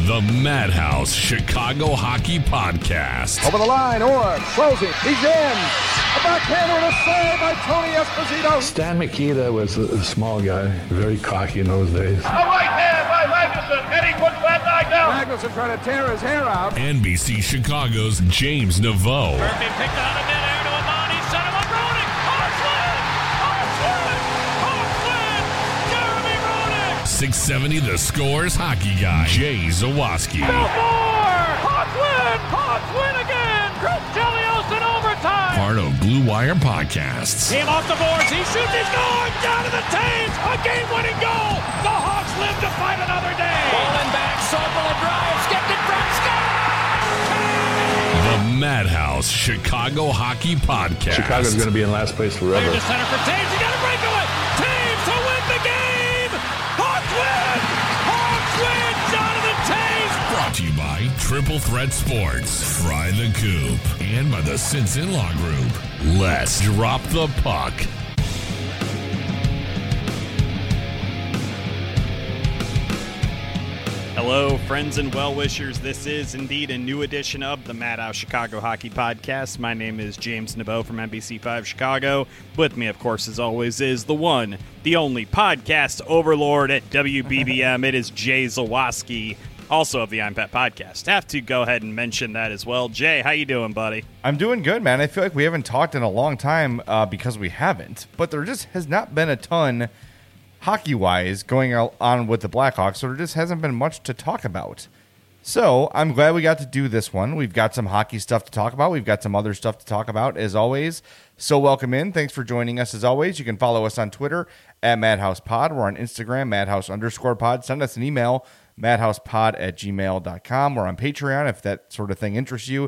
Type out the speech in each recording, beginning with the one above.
The Madhouse Chicago Hockey Podcast. Over the line, Orr, closing, he's in. A backhander and a save by Tony Esposito. Stan Mikita was a small guy, very cocky in those days. A right hand by Magnuson, and he puts that guy down. Magnuson trying to tear his hair out. NBC Chicago's James Naveau. Murphy picked out of midair to Amani, set him up, Roenick. Hawks win! Jeremy Roenick! 670 The Scores hockey guy, Jay Zawaski. Belfort! Hawks win again! Chris Chelios in overtime! Part of Blue Wire Podcasts. Team off the boards, he shoots, he scores! Down to the Taves, a game-winning goal! The Hawks live to fight another day! Bowling back, Sobel a drive, skipped it from Scott! The Madhouse Chicago Hockey Podcast. Chicago's going to be in last place forever. Clear to center for Taves, he got a breakaway! Taves to win the game! Hawks win! Hawks win! Jonathan Taves! Brought to you by Triple Threat Sports, Fry the Coop, and by the Since In-Law Group. Let's drop the puck. Hello, friends and well-wishers. This is indeed a new edition of the Madhouse Chicago Hockey Podcast. My name is James Naveau from NBC5 Chicago. With me, of course, as always, is the one, the only podcast overlord at WBBM. It is Jay Zawaski, also of the I'm Pet Podcast. Have to go ahead and mention that as well. Jay, how you doing, buddy? I'm doing good, man. I feel like we haven't talked in a long time because we haven't, but there just has not been a ton hockey-wise going on with the Blackhawks, so there just hasn't been much to talk about. So I'm glad we got to do this one. We've got some hockey stuff to talk about. We've got some other stuff to talk about, as always. So welcome in. Thanks for joining us, as always. You can follow us on Twitter at MadhousePod. We're on Instagram, Madhouse_pod. Send us an email, madhousepod@gmail.com. We're on Patreon, if that sort of thing interests you,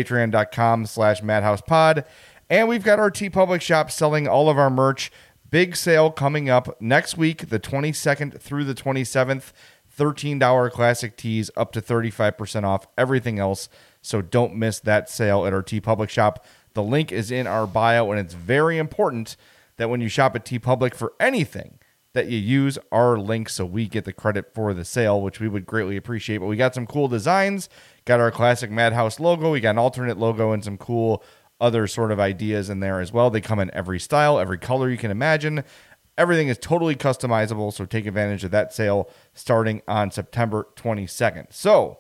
patreon.com/MadhousePod. And we've got our TeePublic shop selling all of our merch. Big sale coming up next week, the 22nd through the 27th. $13 classic tees, up to 35% off everything else. So don't miss that sale at our TeePublic shop. The link is in our bio, and it's very important that when you shop at TeePublic for anything, that you use our link so we get the credit for the sale, which we would greatly appreciate. But we got some cool designs, got our classic Madhouse logo, we got an alternate logo, and some cool other sort of ideas in there as well. They come in every style, every color you can imagine. Everything is totally customizable, so take advantage of that sale starting on September 22nd. So,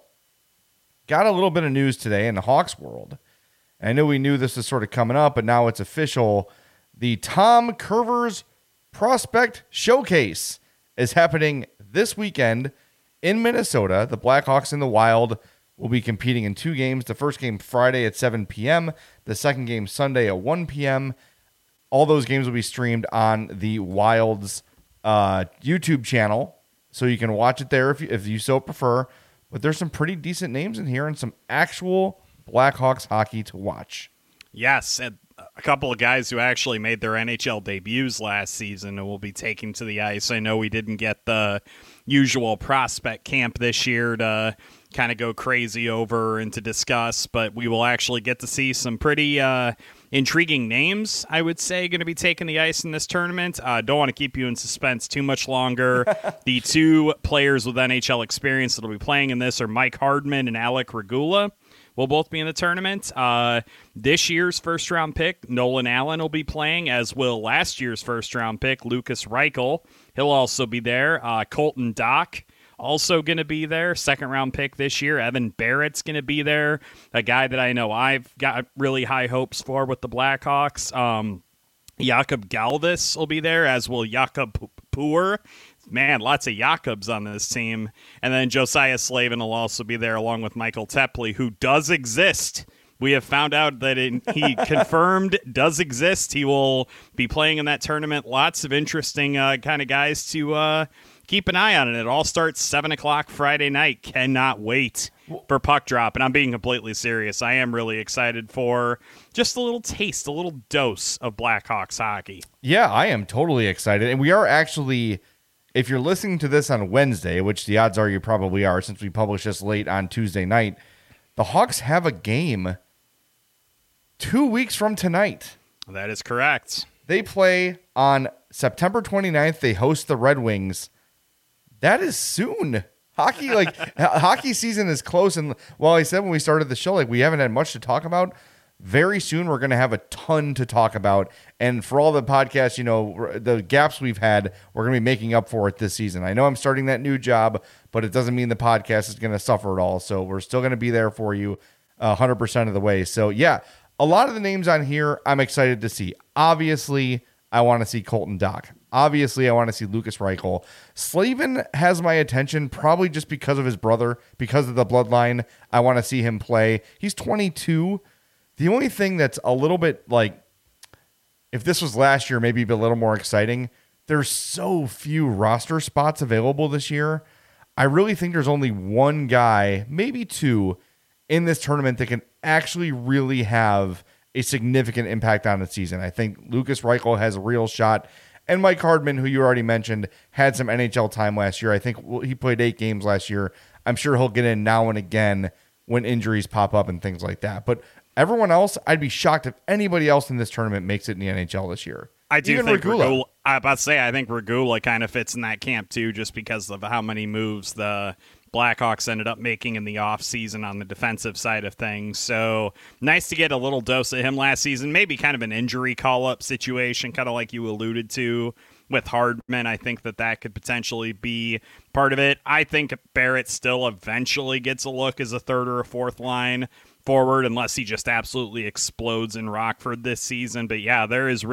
got a little bit of news today in the Hawks world. I know we knew this was sort of coming up, but now it's official. The Tom Kurvers Prospect Showcase is happening this weekend in Minnesota. The Blackhawks and the Wild will be competing in two games. The first game Friday at 7 p.m., the second game Sunday at 1 p.m. All those games will be streamed on the Wild's YouTube channel, so you can watch it there if you so prefer. But there's some pretty decent names in here and some actual Blackhawks hockey to watch. Yes, and a couple of guys who actually made their NHL debuts last season and will be taking to the ice. I know we didn't get the usual prospect camp this year to kind of go crazy over and to discuss, but we will actually get to see some pretty intriguing names, I would say, going to be taking the ice in this tournament. Don't want to keep you in suspense too much longer. The two players with NHL experience that will be playing in this are Mike Hardman and Alec Regula. Will both be in the tournament. This year's first-round pick, Nolan Allen, will be playing, as will last year's first-round pick, Lucas Reichel. He'll also be there. Colton Dock, also going to be there. Second-round pick this year. Evan Barrett's going to be there. A guy that I know I've got really high hopes for with the Blackhawks. Jakob Galvis will be there, as will Jakob Poor. Man, lots of Jakobs on this team. And then Josiah Slavin will also be there along with Michael Tepley, who does exist. We have found out that he confirmed does exist. He will be playing in that tournament. Lots of interesting kind of guys to keep an eye on. And it all starts 7 o'clock Friday night. Cannot wait for puck drop. And I'm being completely serious. I am really excited for just a little taste, a little dose of Blackhawks hockey. Yeah, I am totally excited. And we are actually, if you're listening to this on Wednesday, which the odds are you probably are since we publish this late on Tuesday night, the Hawks have a game 2 weeks from tonight. That is correct. They play on September 29th. They host the Red Wings. That is soon. Hockey season is close. And while I said when we started the show, like we haven't had much to talk about, very soon we're going to have a ton to talk about. And for all the podcasts, the gaps we've had, we're going to be making up for it this season. I know I'm starting that new job, but it doesn't mean the podcast is going to suffer at all. So we're still going to be there for you 100% of the way. So yeah, a lot of the names on here I'm excited to see. Obviously, I want to see Colton Dach. Obviously, I want to see Lukas Reichel. Slavin has my attention probably just because of his brother, because of the bloodline. I want to see him play. He's 22. The only thing that's a little bit like, if this was last year, maybe a little more exciting, there's so few roster spots available this year. I really think there's only one guy, maybe two, in this tournament that can actually really have a significant impact on the season. I think Lukas Reichel has a real shot. And Mike Hardman, who you already mentioned, had some NHL time last year. I think he played 8 games last year. I'm sure he'll get in now and again when injuries pop up and things like that. But everyone else, I'd be shocked if anybody else in this tournament makes it in the NHL this year. I do think Regula. I think Regula kind of fits in that camp too, just because of how many moves the Blackhawks ended up making in the offseason on the defensive side of things. So nice to get a little dose of him last season. Maybe kind of an injury call-up situation, kind of like you alluded to with Hardman. I think that could potentially be part of it. I think Barrett still eventually gets a look as a third or a fourth line forward, unless he just absolutely explodes in Rockford this season. But yeah, there's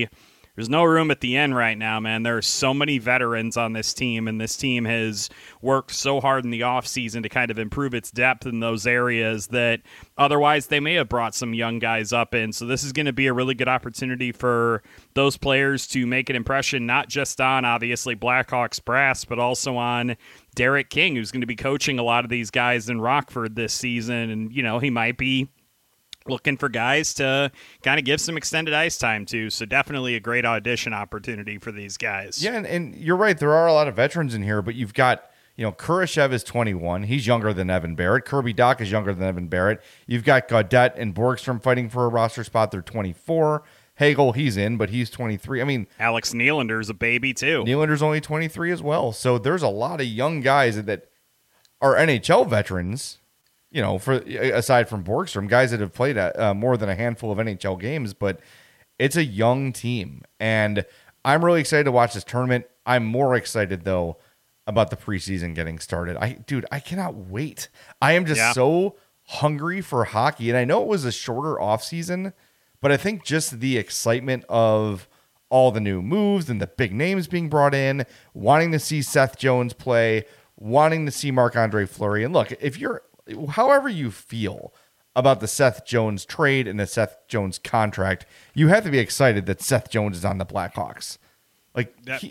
no room at the end right now, man. There are so many veterans on this team, and this team has worked so hard in the offseason to kind of improve its depth in those areas that otherwise they may have brought some young guys up in. So this is going to be a really good opportunity for those players to make an impression, not just on, obviously, Blackhawks brass, but also on Derek King, who's going to be coaching a lot of these guys in Rockford this season. And, he might be looking for guys to kind of give some extended ice time to. So definitely a great audition opportunity for these guys. Yeah, and you're right. There are a lot of veterans in here, but you've got, Kurashev is 21. He's younger than Evan Barrett. Kirby Dach is younger than Evan Barrett. You've got Gaudette and Borgstrom fighting for a roster spot. They're 24. Hagel, he's in, but he's 23. I mean, Alex Nylander's a baby too. Nylander's only 23 as well. So there's a lot of young guys that are NHL veterans, for aside from Borgstrom, guys that have played more than a handful of NHL games, but it's a young team. And I'm really excited to watch this tournament. I'm more excited, though, about the preseason getting started. I cannot wait. I am just so hungry for hockey. And I know it was a shorter offseason, but I think just the excitement of all the new moves and the big names being brought in, wanting to see Seth Jones play, wanting to see Marc-Andre Fleury. And look, however you feel about the Seth Jones trade and the Seth Jones contract, you have to be excited that Seth Jones is on the Blackhawks. Duh.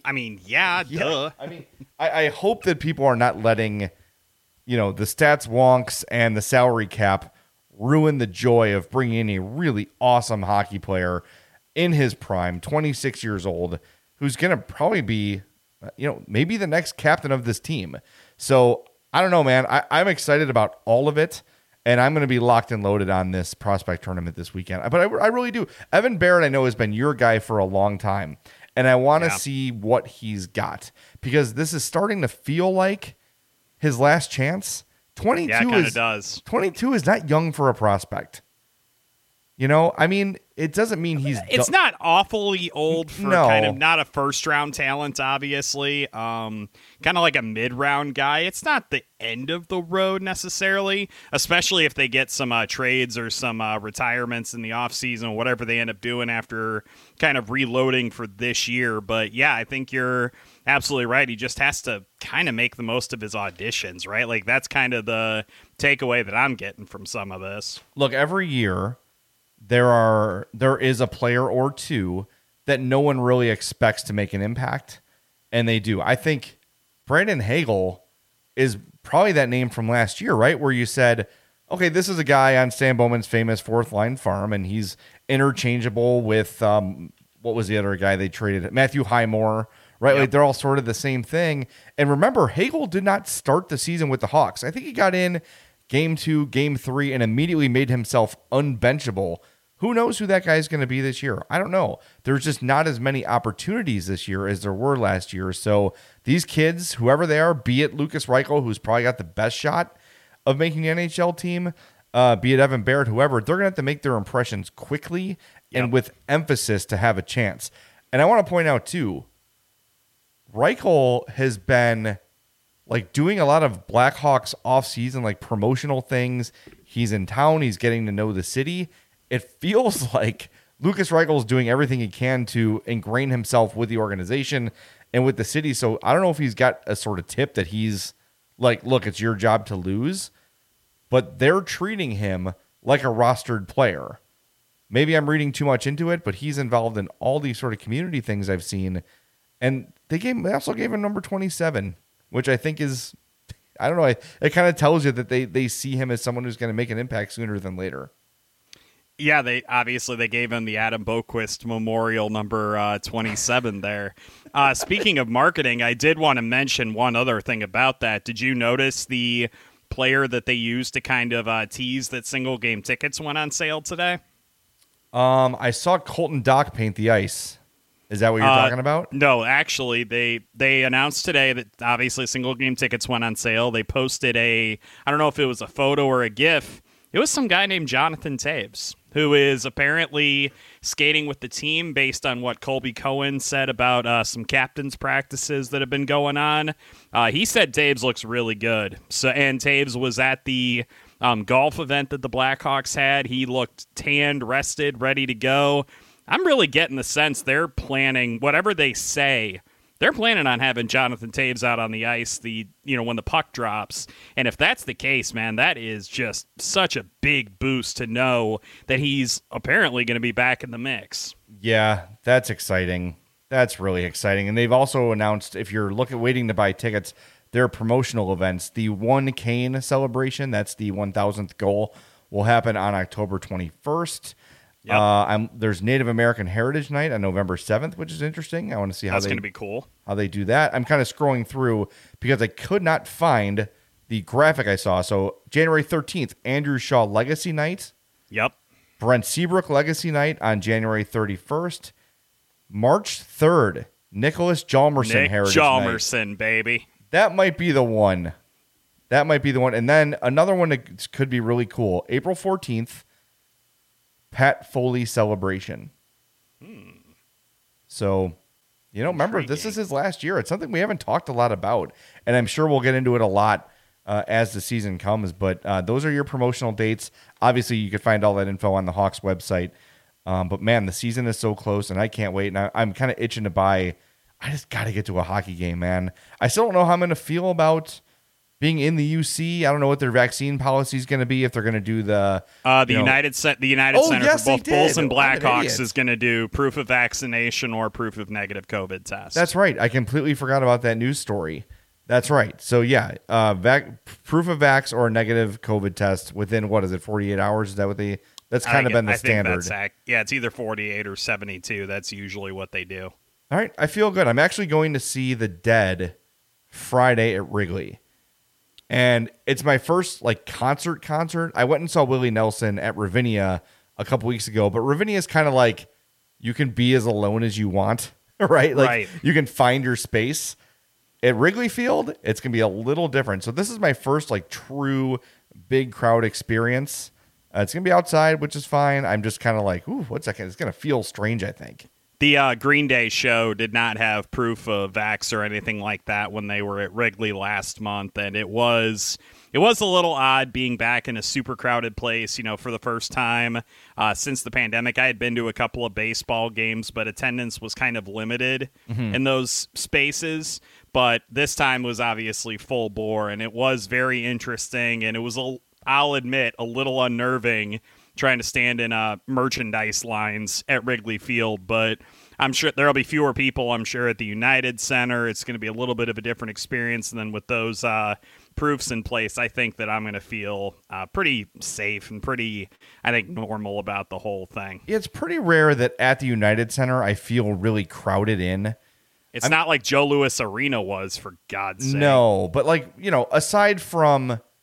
I mean, I hope that people are not letting, the stats wonks and the salary cap ruin the joy of bringing in a really awesome hockey player in his prime, 26 years old, who's going to probably be, maybe the next captain of this team. So I don't know, man. I'm excited about all of it, and I'm going to be locked and loaded on this prospect tournament this weekend. But I really do. Evan Barrett, I know, has been your guy for a long time, and I want to see what he's got, because this is starting to feel like his last chance. 22 yeah, it kind of does. 22 is not young for a prospect. I mean, it doesn't mean he's... It's not awfully old for kind of not a first-round talent, obviously. Kind of like a mid-round guy. It's not the end of the road necessarily, especially if they get some trades or some retirements in the offseason, whatever they end up doing after kind of reloading for this year. But, yeah, I think you're absolutely right. He just has to kind of make the most of his auditions, right? Like, that's kind of the takeaway that I'm getting from some of this. Look, every year... There is a player or two that no one really expects to make an impact, and they do. I think Brandon Hagel is probably that name from last year, right? Where you said, okay, this is a guy on Stan Bowman's famous fourth line farm, and he's interchangeable with what was the other guy they traded? Matthew Highmore, right? Yep. Like they're all sort of the same thing. And remember, Hagel did not start the season with the Hawks. I think he got in Game 2, Game 3, and immediately made himself unbenchable Who knows who that guy is going to be this year? I don't know. There's just not as many opportunities this year as there were last year. So these kids, whoever they are, be it Lucas Reichel, who's probably got the best shot of making the NHL team, be it Evan Barrett, whoever, they're going to have to make their impressions quickly and with emphasis to have a chance. And I want to point out, too, Reichel has been like doing a lot of Blackhawks off-season, like promotional things. He's in town. He's getting to know the city. It feels like Lucas Reichel is doing everything he can to ingrain himself with the organization and with the city. So I don't know if he's got a sort of tip that he's like, look, it's your job to lose, but they're treating him like a rostered player. Maybe I'm reading too much into it, but he's involved in all these sort of community things I've seen. And they also gave him number 27, which I think is, I don't know, it kind of tells you that they see him as someone who's going to make an impact sooner than later. Yeah, they gave him the Adam Boquist Memorial number 27 there. Speaking of marketing, I did want to mention one other thing about that. Did you notice the player that they used to kind of tease that single game tickets went on sale today? I saw Colton Dock paint the ice. Is that what you're talking about? No, actually, they announced today that obviously single game tickets went on sale. They posted I don't know if it was a photo or a GIF. It was some guy named Jonathan Toews, who is apparently skating with the team based on what Colby Cohen said about some captain's practices that have been going on. He said Toews looks really good. And Toews was at the golf event that the Blackhawks had. He looked tanned, rested, ready to go. I'm really getting the sense they're planning, whatever they say, they're planning on having Jonathan Toews out on the ice when the puck drops. And if that's the case, man, that is just such a big boost to know that he's apparently going to be back in the mix. Yeah, that's exciting. That's really exciting. And they've also announced, if you're waiting to buy tickets, their promotional events, the One Kane celebration, that's the 1,000th goal, will happen on October 21st. Yep. There's Native American Heritage Night on November 7th, which is interesting. I want to see that's going to be cool. How they do that. I'm kind of scrolling through because I could not find the graphic I saw. So January 13th, Andrew Shaw Legacy Night. Yep. Brent Seabrook Legacy Night on January 31st. March 3rd, Nicholas Hjalmarsson Heritage Hjalmarsson, Night. Baby. That might be the one. And then another one that could be really cool. April 14th, Pat Foley Celebration. So, remember, this is his last year. It's something we haven't talked a lot about, and I'm sure we'll get into it a lot as the season comes, but those are your promotional dates. Obviously, you can find all that info on the Hawks website, but man, the season is so close, and I can't wait, and I'm kind of itching to buy. I just got to get to a hockey game, man. I still don't know how I'm going to feel about being in the UC. I don't know what their vaccine policy is going to be, if they're going to do the United Center yes, for both Bulls and I'm an Blackhawks idiot. is going to do proof of vaccination or proof of negative COVID test. That's right. I completely forgot about that news story. That's right. So yeah, proof of vax or negative COVID test within 48 hours? Is that what they? That's kind of been the standard. It's either 48 or 72. That's usually what they do. All right, I feel good. I'm actually going to see The Dead Friday at Wrigley. And it's my first concert. I went and saw Willie Nelson at Ravinia a couple weeks ago, but Ravinia is kind of like you can be as alone as you want, right? Right. You can find your space. At Wrigley Field, it's going to be a little different. So this is my first true big crowd experience. It's going to be outside, which is fine. I'm just kind of ooh, what's that? It's going to feel strange, I think. The Green Day show did not have proof of vax or anything like that when they were at Wrigley last month, and it was a little odd being back in a super crowded place, for the first time since the pandemic. I had been to a couple of baseball games, but attendance was kind of limited in those spaces. But this time was obviously full bore, and it was very interesting, and it was, I'll admit, a little unnerving trying to stand in merchandise lines at Wrigley Field, but I'm sure there'll be fewer people, I'm sure, at the United Center. It's going to be a little bit of a different experience, and then with those proofs in place, I think that I'm going to feel pretty safe and pretty, I think, normal about the whole thing. It's pretty rare that at the United Center I feel really crowded in. It's not like Joe Louis Arena was, for God's sake. No, but aside from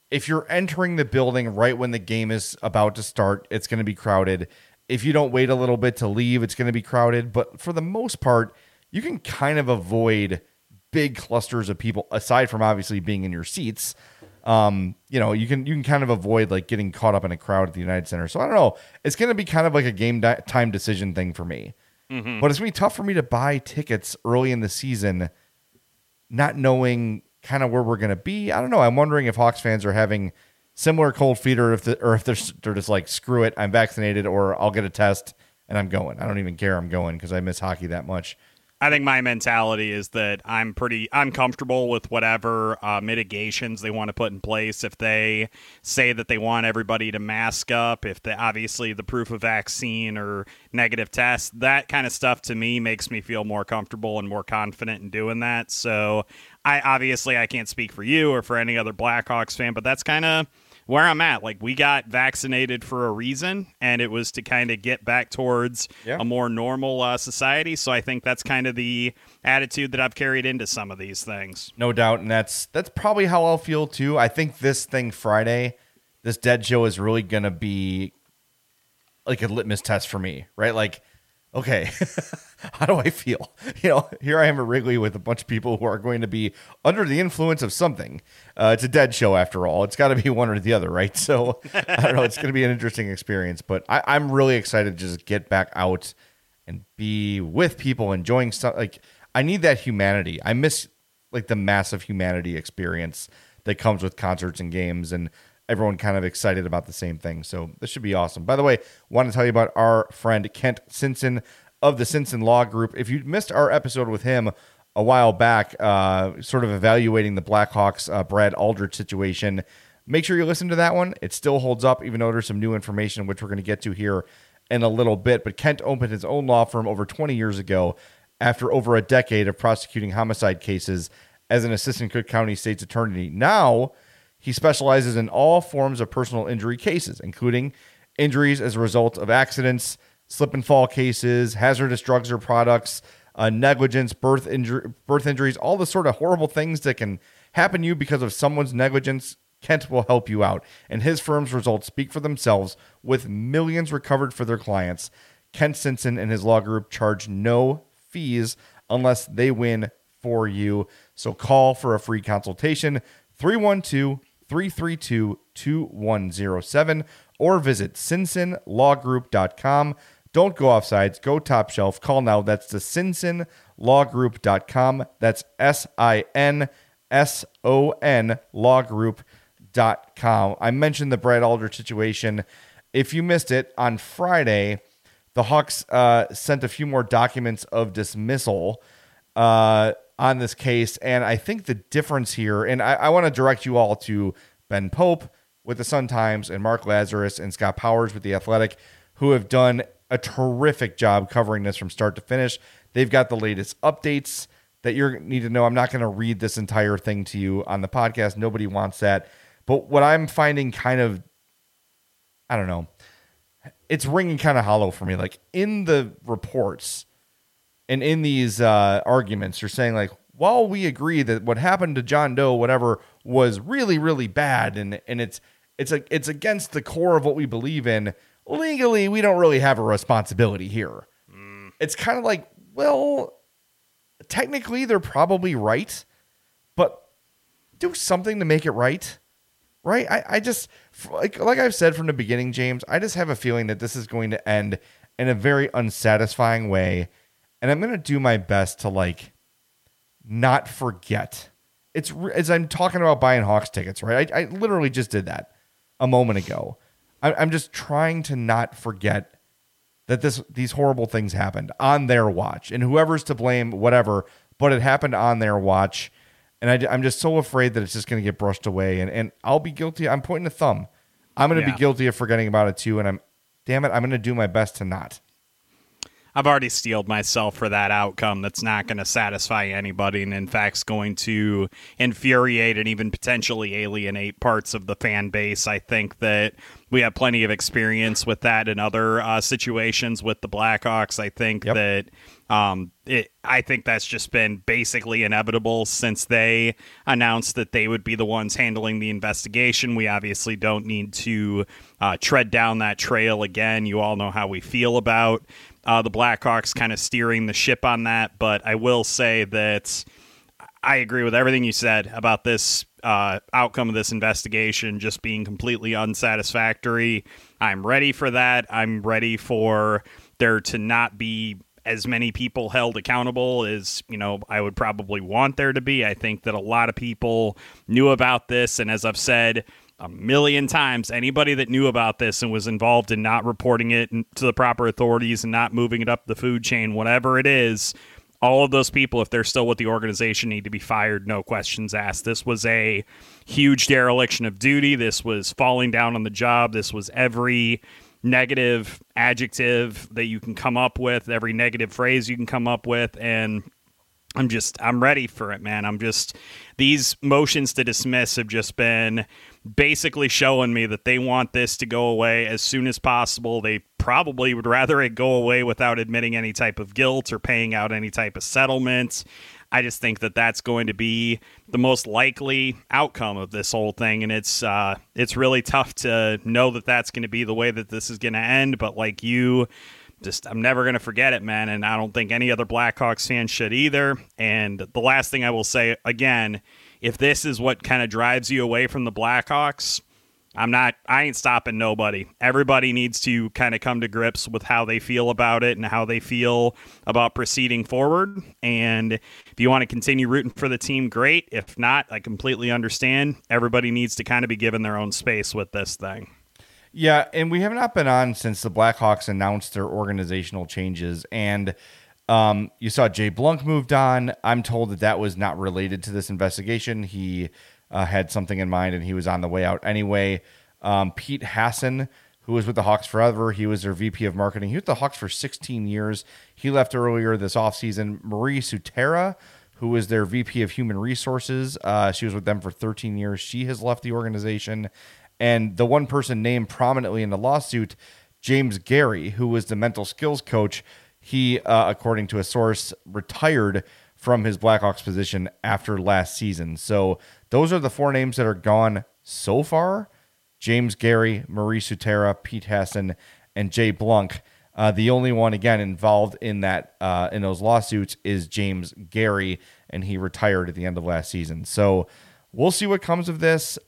if you're entering the building right when the game is about to start, it's going to be crowded. If you don't wait a little bit to leave, it's going to be crowded. But for the most part, you can kind of avoid big clusters of people, aside from obviously being in your seats. You can kind of avoid like getting caught up in a crowd at the United Center. So I don't know. It's going to be kind of like a game time decision thing for me. Mm-hmm. But it's going to be tough for me to buy tickets early in the season, not knowing kind of where we're going to be. I don't know. I'm wondering if Hawks fans are having similar cold feet, or if they're just like, screw it, I'm vaccinated, or I'll get a test and I'm going. I don't even care. I'm going because I miss hockey that much. I think my mentality is that I'm comfortable with whatever mitigations they want to put in place. If they say that they want everybody to mask up, if obviously the proof of vaccine or negative test, that kind of stuff to me makes me feel more comfortable and more confident in doing that. So I can't speak for you or for any other Blackhawks fan, but that's kind of where I'm at. Like, we got vaccinated for a reason, and it was to kind of get back towards a more normal society. So I think that's kind of the attitude that I've carried into some of these things. No doubt, and that's probably how I'll feel too. I think this thing Friday, this Dead Show, is really going to be like a litmus test for me, right? Like, okay, how do I feel? Here I am at Wrigley with a bunch of people who are going to be under the influence of something. It's a Dead Show after all. It's got to be one or the other, right? So I don't know. It's going to be an interesting experience, but I'm really excited to just get back out and be with people, enjoying stuff. Like, I need that humanity. I miss like the massive humanity experience that comes with concerts and games, and everyone kind of excited about the same thing. So this should be awesome. By the way, want to tell you about our friend Kent Sinson of the Sinson Law Group. If you missed our episode with him a while back, sort of evaluating the Blackhawks Brad Aldrich situation, make sure you listen to that one. It still holds up, even though there's some new information, which we're going to get to here in a little bit. But Kent opened his own law firm over 20 years ago after over a decade of prosecuting homicide cases as an assistant Cook County State's attorney. Now, he specializes in all forms of personal injury cases, including injuries as a result of accidents, slip and fall cases, hazardous drugs or products, negligence, birth injuries, all the sort of horrible things that can happen to you because of someone's negligence. Kent will help you out, and his firm's results speak for themselves, with millions recovered for their clients. Kent Sinson and his law group charge no fees unless they win for you. So call for a free consultation, 312-332-2107, or visit sinsonlawgroup.com. Don't go offsides. Go top shelf. Call now. That's the sinsonlawgroup.com. That's SINSON lawgroup.com. I mentioned the Brad Aldrich situation. If you missed it, on Friday, the Hawks sent a few more documents of dismissal on this case. And I think the difference here, and I want to direct you all to Ben Pope with the Sun-Times and Mark Lazarus and Scott Powers with The Athletic, who have done a terrific job covering this from start to finish. They've got the latest updates that you need to know. I'm not going to read this entire thing to you on the podcast. Nobody wants that. But what I'm finding kind of, I don't know, it's ringing kind of hollow for me. Like, in the reports and in these arguments, you're saying, like, while we agree that what happened to John Doe, whatever, was really, really bad, and it's against the core of what we believe in, legally, we don't really have a responsibility here. It's kind of like, well, technically they're probably right, but do something to make it right. Right? I just, like I've said from the beginning, James, I just have a feeling that this is going to end in a very unsatisfying way. And I'm going to do my best to, like, not forget. It's as I'm talking about buying Hawks tickets, right? I literally just did that a moment ago. I'm just trying to not forget that these horrible things happened on their watch, and whoever's to blame, whatever, but it happened on their watch. And I'm just so afraid that it's just going to get brushed away, and I'll be guilty. I'm pointing a thumb. I'm going to be guilty of forgetting about it too, and I'm going to do my best to not. I've already steeled myself for that outcome that's not going to satisfy anybody, and in fact is going to infuriate and even potentially alienate parts of the fan base. I think that we have plenty of experience with that in other situations with the Blackhawks. I think that I think that's just been basically inevitable since they announced that they would be the ones handling the investigation. We obviously don't need to tread down that trail again. You all know how we feel about the Blackhawks kind of steering the ship on that, but I will say that I agree with everything you said about this outcome of this investigation just being completely unsatisfactory. I'm ready for that. I'm ready for there to not be as many people held accountable as, I would probably want there to be. I think that a lot of people knew about this, and as I've said a million times, anybody that knew about this and was involved in not reporting it to the proper authorities and not moving it up the food chain, whatever it is, all of those people, if they're still with the organization, need to be fired, no questions asked. This was a huge dereliction of duty. This was falling down on the job. This was every negative adjective that you can come up with, every negative phrase you can come up with, and I'm ready for it, man. These motions to dismiss have just been basically showing me that they want this to go away as soon as possible. They probably would rather it go away without admitting any type of guilt or paying out any type of settlement. I just think that that's going to be the most likely outcome of this whole thing, and it's really tough to know that that's going to be the way that this is going to end, but like I'm never going to forget it, man, and I don't think any other Blackhawks fan should either. And the last thing I will say, again, if this is what kind of drives you away from the Blackhawks, I ain't stopping nobody. Everybody needs to kind of come to grips with how they feel about it and how they feel about proceeding forward. And if you want to continue rooting for the team, great. If not, I completely understand. Everybody needs to kind of be given their own space with this thing. Yeah, and we have not been on since the Blackhawks announced their organizational changes. And you saw Jay Blunk moved on. I'm told that was not related to this investigation. He had something in mind, and he was on the way out anyway. Pete Hassan, who was with the Hawks forever, he was their VP of marketing. He was with the Hawks for 16 years. He left earlier this offseason. Marie Sutera, who was their VP of human resources, she was with them for 13 years. She has left the organization. And the one person named prominently in the lawsuit, James Gary, who was the mental skills coach, he, according to a source, retired from his Blackhawks position after last season. So those are the four names that are gone so far: James Gary, Marie Sutera, Pete Hassan, and Jay Blunk. The only one, again, involved in that in those lawsuits is James Gary, and he retired at the end of last season. So we'll see what comes of this.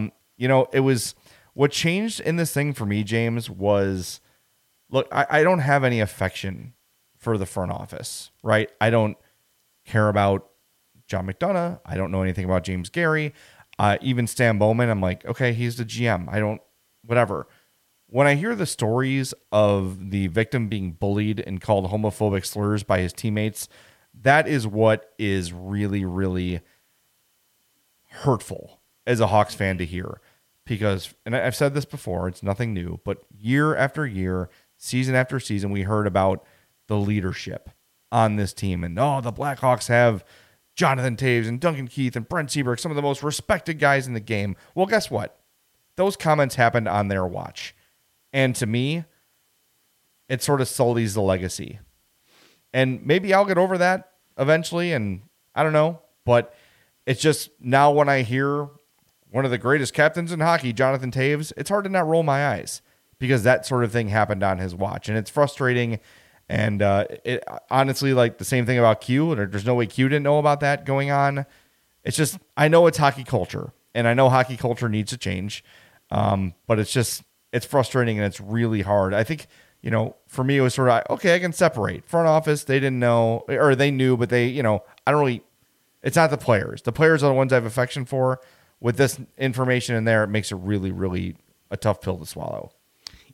It was what changed in this thing for me, James, was, look, I don't have any affection for the front office, right? I don't care about John McDonough. I don't know anything about James Gary. Even Stan Bowman, I'm like, okay, he's the GM. Whatever. When I hear the stories of the victim being bullied and called homophobic slurs by his teammates, that is what is really, really hurtful as a Hawks fan to hear. Because, and I've said this before, it's nothing new, but year after year, season after season, we heard about the leadership on this team. And, the Blackhawks have Jonathan Toews and Duncan Keith and Brent Seabrook, some of the most respected guys in the game. Well, guess what? Those comments happened on their watch. And to me, it sort of sullies the legacy. And maybe I'll get over that eventually, and I don't know. But it's just now when I hear one of the greatest captains in hockey, Jonathan Toews, it's hard to not roll my eyes because that sort of thing happened on his watch. And it's frustrating. And it honestly, like the same thing about Q, and there's no way Q didn't know about that going on. It's just, I know it's hockey culture, and I know hockey culture needs to change. But it's frustrating, and it's really hard. I think, for me, it was sort of, okay, I can separate. Front office, they didn't know, or they knew, but they, I don't really, it's not the players. The players are the ones I have affection for. With this information in there, it makes it really, really a tough pill to swallow.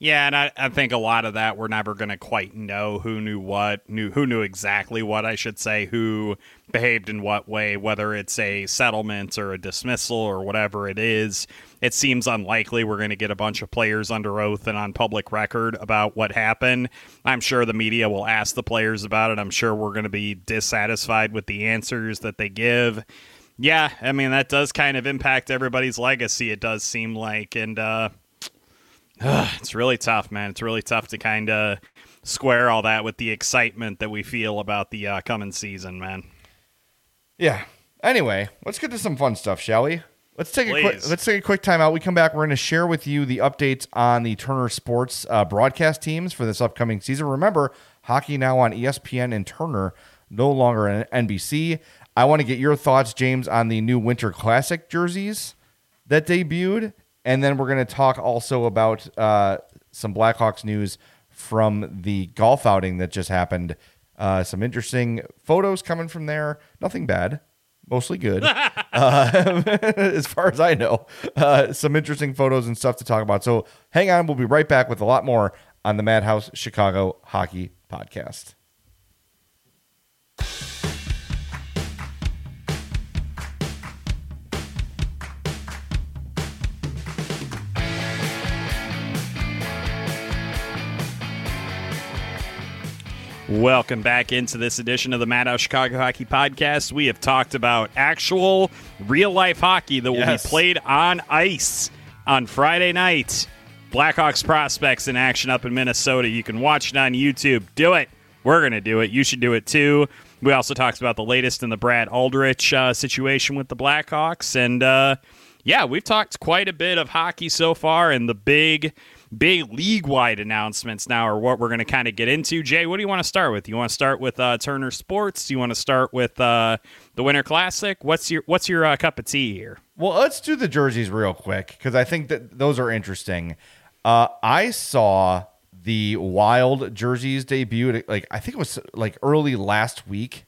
Yeah, and I think a lot of that we're never going to quite know who knew what, who knew exactly what, I should say, who behaved in what way, whether it's a settlement or a dismissal or whatever it is. It seems unlikely we're going to get a bunch of players under oath and on public record about what happened. I'm sure the media will ask the players about it. I'm sure we're going to be dissatisfied with the answers that they give. Yeah, I mean, that does kind of impact everybody's legacy, it does seem like, and it's really tough, man. It's really tough to kind of square all that with the excitement that we feel about the coming season, man. Yeah. Anyway, let's get to some fun stuff, shall we? Let's take a quick time out. We come back. We're going to share with you the updates on the Turner Sports broadcast teams for this upcoming season. Remember, hockey now on ESPN and Turner, no longer on NBC. I want to get your thoughts, James, on the new Winter Classic jerseys that debuted. And then we're going to talk also about some Blackhawks news from the golf outing that just happened. Some interesting photos coming from there. Nothing bad. Mostly good. As far as I know. Some interesting photos and stuff to talk about. So hang on. We'll be right back with a lot more on the Madhouse Chicago Hockey Podcast. Welcome back into this edition of the Madhouse Chicago Hockey Podcast. We have talked about actual real-life hockey that will be played on ice on Friday night. Blackhawks prospects in action up in Minnesota. You can watch it on YouTube. Do it. We're going to do it. You should do it too. We also talked about the latest in the Brad Aldrich situation with the Blackhawks. And, yeah, we've talked quite a bit of hockey so far, and the big league-wide announcements now are what we're going to kind of get into. Jay, what do you want to start with? You want to start with Turner Sports? Do you want to start with the Winter Classic? What's your cup of tea here? Well, let's do the jerseys real quick because I think that those are interesting. I saw the Wild jerseys debut. I think it was early last week.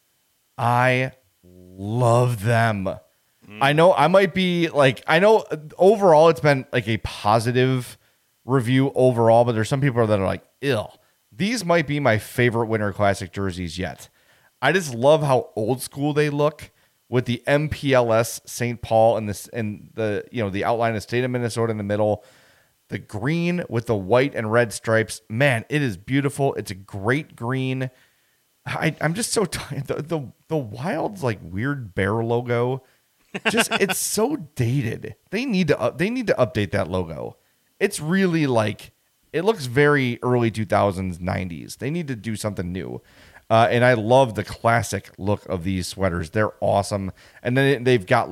I love them. I know I might be I know overall it's been a positive review overall, but there's some people that are ew. These might be my favorite Winter Classic jerseys yet. I just love how old school they look with the MPLS St. Paul and the outline of the state of Minnesota in the middle, the green with the white and red stripes. Man, it is beautiful. It's a great green. I'm just so tired. The Wild's weird bear logo, it's so dated. They need to update that logo. It's really it looks very early 2000s, 90s. They need to do something new. And I love the classic look of these sweaters. They're awesome. And then they've got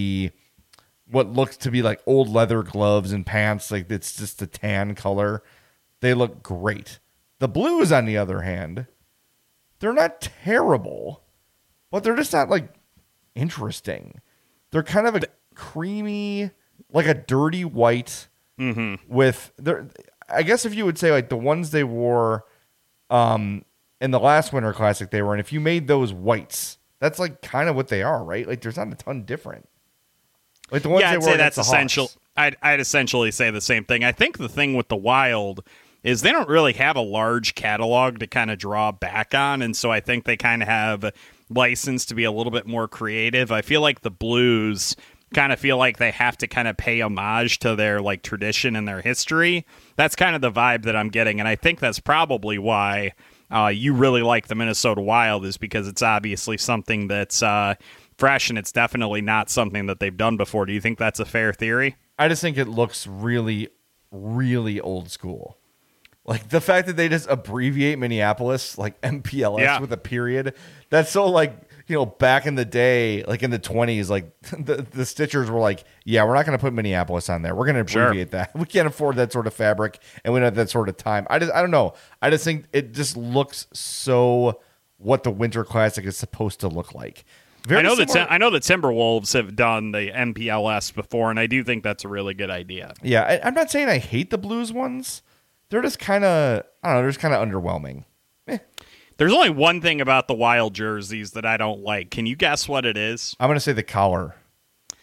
what looks to be old leather gloves and pants. It's just a tan color. They look great. The blues, on the other hand, they're not terrible, but they're just not interesting. They're kind of a creamy, a dirty white. Mm-hmm. With I guess if you would say the ones they wore in the last Winter Classic they were in, if you made those whites, that's kind of what they are, right? There's not a ton different. The ones I'd they wore say that's essential. Hawks. I'd essentially say the same thing. I think the thing with the Wild is they don't really have a large catalog to kind of draw back on, and so I think they kind of have license to be a little bit more creative. I feel like the Blues kind of feel like they have to kind of pay homage to their tradition and their history. That's kind of the vibe that I'm getting, and I think that's probably why you really like the Minnesota Wild, is because it's obviously something that's fresh, and it's definitely not something that they've done before. Do you think that's a fair theory? I just think it looks really, really old school. The fact that they just abbreviate Minneapolis MPLS with a period. That's so back in the day, in the 20s, the Stitchers were yeah, we're not going to put Minneapolis on there. We're going to abbreviate that. We can't afford that sort of fabric, and we don't have that sort of time. I don't know. I just think it just looks so what the Winter Classic is supposed to look like. I know the Timberwolves have done the MPLS before, and I do think that's a really good idea. Yeah, I'm not saying I hate the Blues ones. They're just kind of, I don't know, they're just kind of underwhelming. There's only one thing about the Wild jerseys that I don't like. Can you guess what it is? I'm going to say the collar.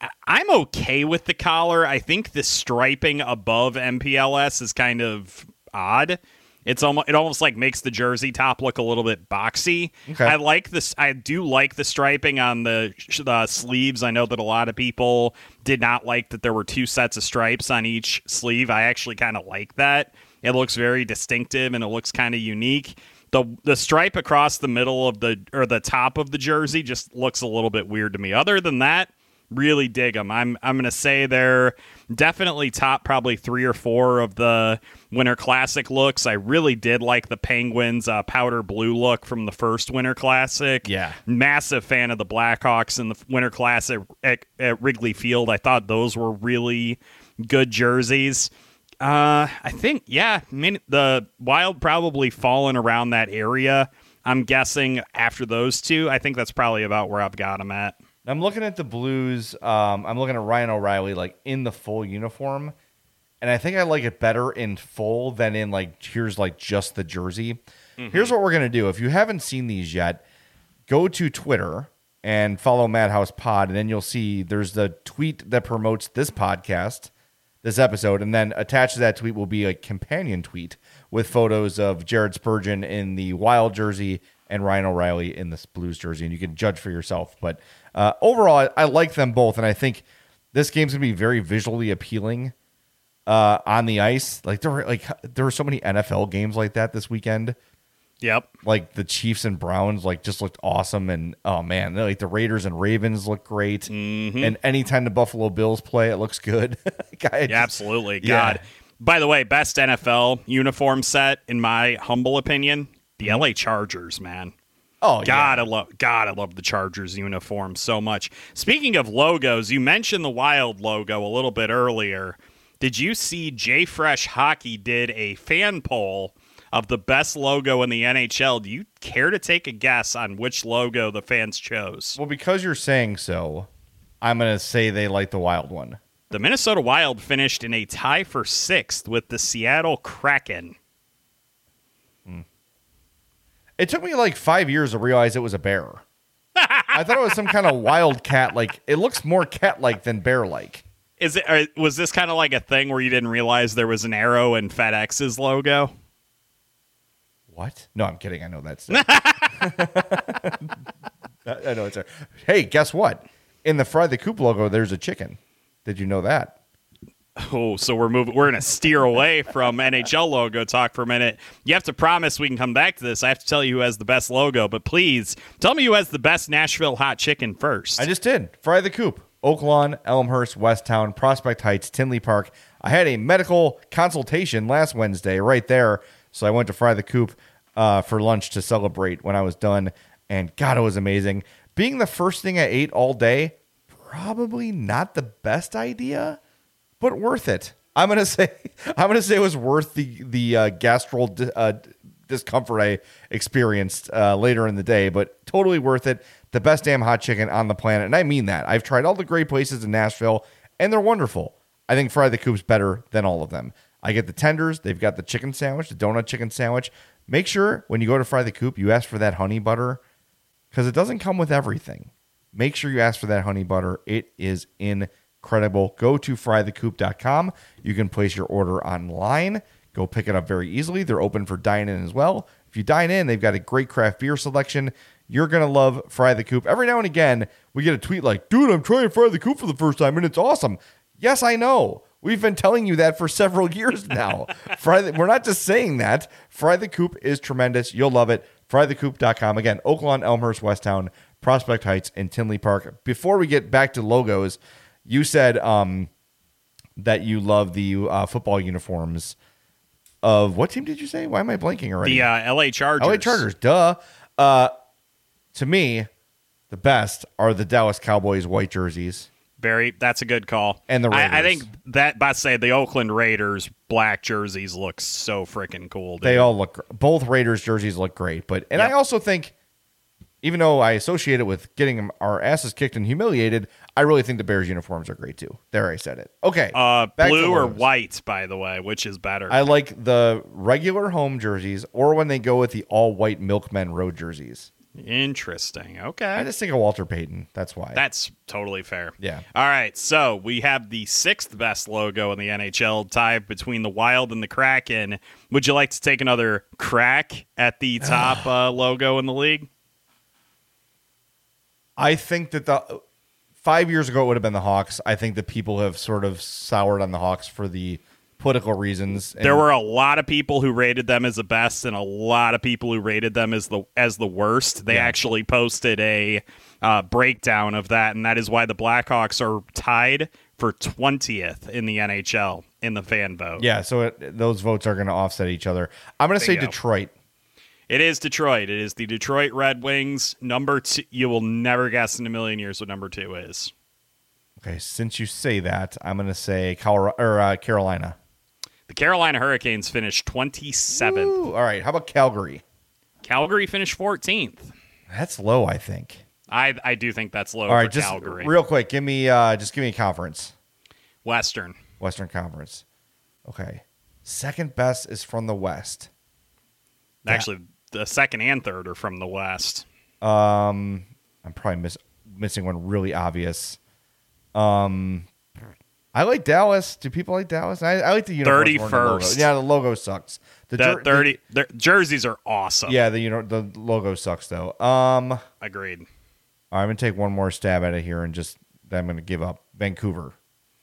I'm okay with the collar. I think the striping above MPLS is kind of odd. It almost like makes the jersey top look a little bit boxy. Okay. I like this. I do like the striping on the sleeves. I know that a lot of people did not like that there were 2 sets of stripes on each sleeve. I actually kind of like that. It looks very distinctive and it looks kind of unique. The stripe across the middle of the top of the jersey just looks a little bit weird to me. Other than that, really dig them. I'm going to say they're definitely top probably 3 or 4 of the Winter Classic looks. I really did like the Penguins powder blue look from the first Winter Classic. Yeah. Massive fan of the Blackhawks in the Winter Classic at Wrigley Field. I thought those were really good jerseys. I think, the Wild probably fallen around that area. I'm guessing after those 2, I think that's probably about where I've got them at. I'm looking at the Blues. I'm looking at Ryan O'Reilly like in the full uniform, and I think I like it better in full than in like here's like just the jersey. Mm-hmm. Here's what we're gonna do. If you haven't seen these yet, go to Twitter and follow Madhouse Pod, and then you'll see there's the tweet that promotes this podcast, this episode, and then attached to that tweet will be a companion tweet with photos of Jared Spurgeon in the Wild jersey and Ryan O'Reilly in this Blues jersey, and you can judge for yourself. But overall, I like them both, and I think this game's gonna be very visually appealing on the ice. Like there were so many NFL games like that this weekend. Yep. Like the Chiefs and Browns just looked awesome, and oh man, like the Raiders and Ravens look great. Mm-hmm. And anytime the Buffalo Bills play, it looks good. Absolutely. God. Yeah. By the way, best NFL uniform set in my humble opinion, the LA Chargers, man. Oh, God, I love the Chargers uniform so much. Speaking of logos, you mentioned the Wild logo a little bit earlier. Did you see JFresh Hockey did a fan poll of the best logo in the NHL? Do you care to take a guess on which logo the fans chose? Well, because you're saying so, I'm going to say they like the Wild one. The Minnesota Wild finished in a tie for 6th with the Seattle Kraken. It took me like 5 years to realize it was a bear. I thought it was some kind of wild cat. Like it looks more cat-like than bear-like. Was this kind of like a thing where you didn't realize there was an arrow in FedEx's logo? What? No, I'm kidding. I know that's. I know it's. Hey, guess what? In the Fry the Coop logo, there's a chicken. Did you know that? Oh, so we're going to steer away from NHL logo talk for a minute. You have to promise we can come back to this. I have to tell you who has the best logo, but please tell me who has the best Nashville hot chicken first. I just did. Fry the Coop. Oak Lawn, Elmhurst, Westtown, Prospect Heights, Tinley Park. I had a medical consultation last Wednesday right there, so I went to Fry the Coop for lunch to celebrate when I was done, and God, it was amazing. Being the first thing I ate all day, probably not the best idea, but worth it. I'm gonna say it was worth the gastral discomfort I experienced later in the day, but totally worth it. The best damn hot chicken on the planet, and I mean that. I've tried all the great places in Nashville, and they're wonderful. I think Fry the Coop's better than all of them. I get the tenders. They've got the chicken sandwich, the donut chicken sandwich. Make sure when you go to Fry the Coop, you ask for that honey butter because it doesn't come with everything. Make sure you ask for that honey butter. It is incredible. Go to frythecoop.com. You can place your order online. Go pick it up very easily. They're open for dine-in as well. If you dine in, they've got a great craft beer selection. You're going to love Fry the Coop. Every now and again, we get a tweet like, dude, I'm trying Fry the Coop for the first time, and it's awesome. Yes, I know. We've been telling you that for several years now. We're not just saying that. Fry the Coop is tremendous. You'll love it. Frythecoop.com. Again, Oak Lawn, Elmhurst, Westtown, Prospect Heights, and Tinley Park. Before we get back to logos, you said that you love the football uniforms of what team did you say? Why am I blanking already? The LA Chargers. LA Chargers, duh. To me, the best are the Dallas Cowboys white jerseys. That's a good call. And the Raiders. I think that, by say, the Oakland Raiders black jerseys look so freaking cool, dude. They all look, both Raiders jerseys look great. Yep. I also think, even though I associate it with getting our asses kicked and humiliated, I really think the Bears uniforms are great too. There, I said it. Okay. Blue or white, by the way, which is better? I like the regular home jerseys or when they go with the all-white Milkmen road jerseys. Interesting. Okay. I just think of Walter Payton. That's why. That's totally fair. Yeah. All right. So we have the 6th best logo in the NHL, tied between the Wild and the Kraken. Would you like to take another crack at the top logo in the league? I think that 5 years ago it would have been the Hawks. I think that people have sort of soured on the Hawks for the political reasons. There were a lot of people who rated them as the best and a lot of people who rated them as the worst. They actually posted a breakdown of that, and that is why the Blackhawks are tied for 20th in the NHL in the fan vote. Yeah, so those votes are going to offset each other. I'm going to say Detroit. It is Detroit. It is the Detroit Red Wings. Number 2. You will never guess in a million years what number 2 is. Okay, since you say that, I'm going to say Carolina. The Carolina Hurricanes finished 27th. Ooh, all right, how about Calgary? Calgary finished 14th. That's low, I think. I do think that's low all right, for just Calgary. Real quick, give me a conference. Western Conference. Okay. Second best is from the West. Actually, the 2nd and 3rd are from the West. I'm probably missing one really obvious. I like Dallas. Do people like Dallas? I like the uniforms. 31st. Yeah, the logo sucks. The jerseys are awesome. Yeah, the logo sucks though. Agreed. All right, I'm gonna take one more stab at it here, and then I'm gonna give up. Vancouver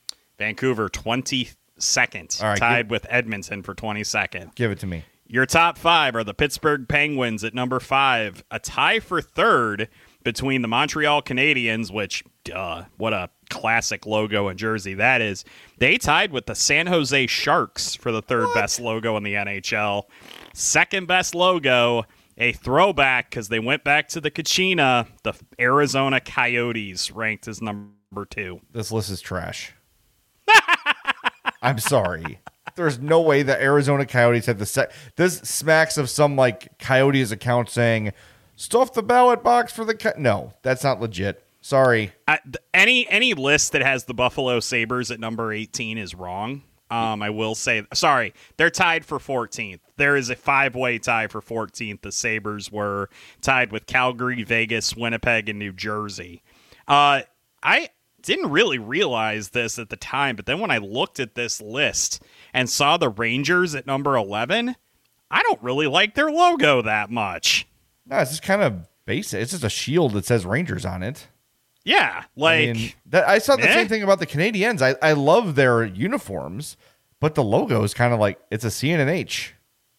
22nd, all right, tied with Edmonton for 22nd. Give it to me. Your top 5 are the Pittsburgh Penguins at number 5, a tie for 3rd between the Montreal Canadiens, which, what a classic logo and jersey that is. They tied with the San Jose Sharks for the 3rd best logo in the NHL. 2nd best logo, a throwback because they went back to the Kachina, the Arizona Coyotes ranked as number 2. This list is trash. I'm sorry. There's no way the Arizona Coyotes have this smacks of some like Coyotes account saying, stuff the ballot box for the no, that's not legit. Sorry. Any list that has the Buffalo Sabres at number 18 is wrong. I will say, sorry, they're tied for 14th. There is a 5-way tie for 14th. The Sabres were tied with Calgary, Vegas, Winnipeg, and New Jersey. I didn't really realize this at the time, but then when I looked at this list and saw the Rangers at number 11, I don't really like their logo that much. No, it's just kind of basic. It's just a shield that says Rangers on it. Yeah, like I saw the same thing about the Canadiens. I love their uniforms, but the logo is kind of like it's a C and an H.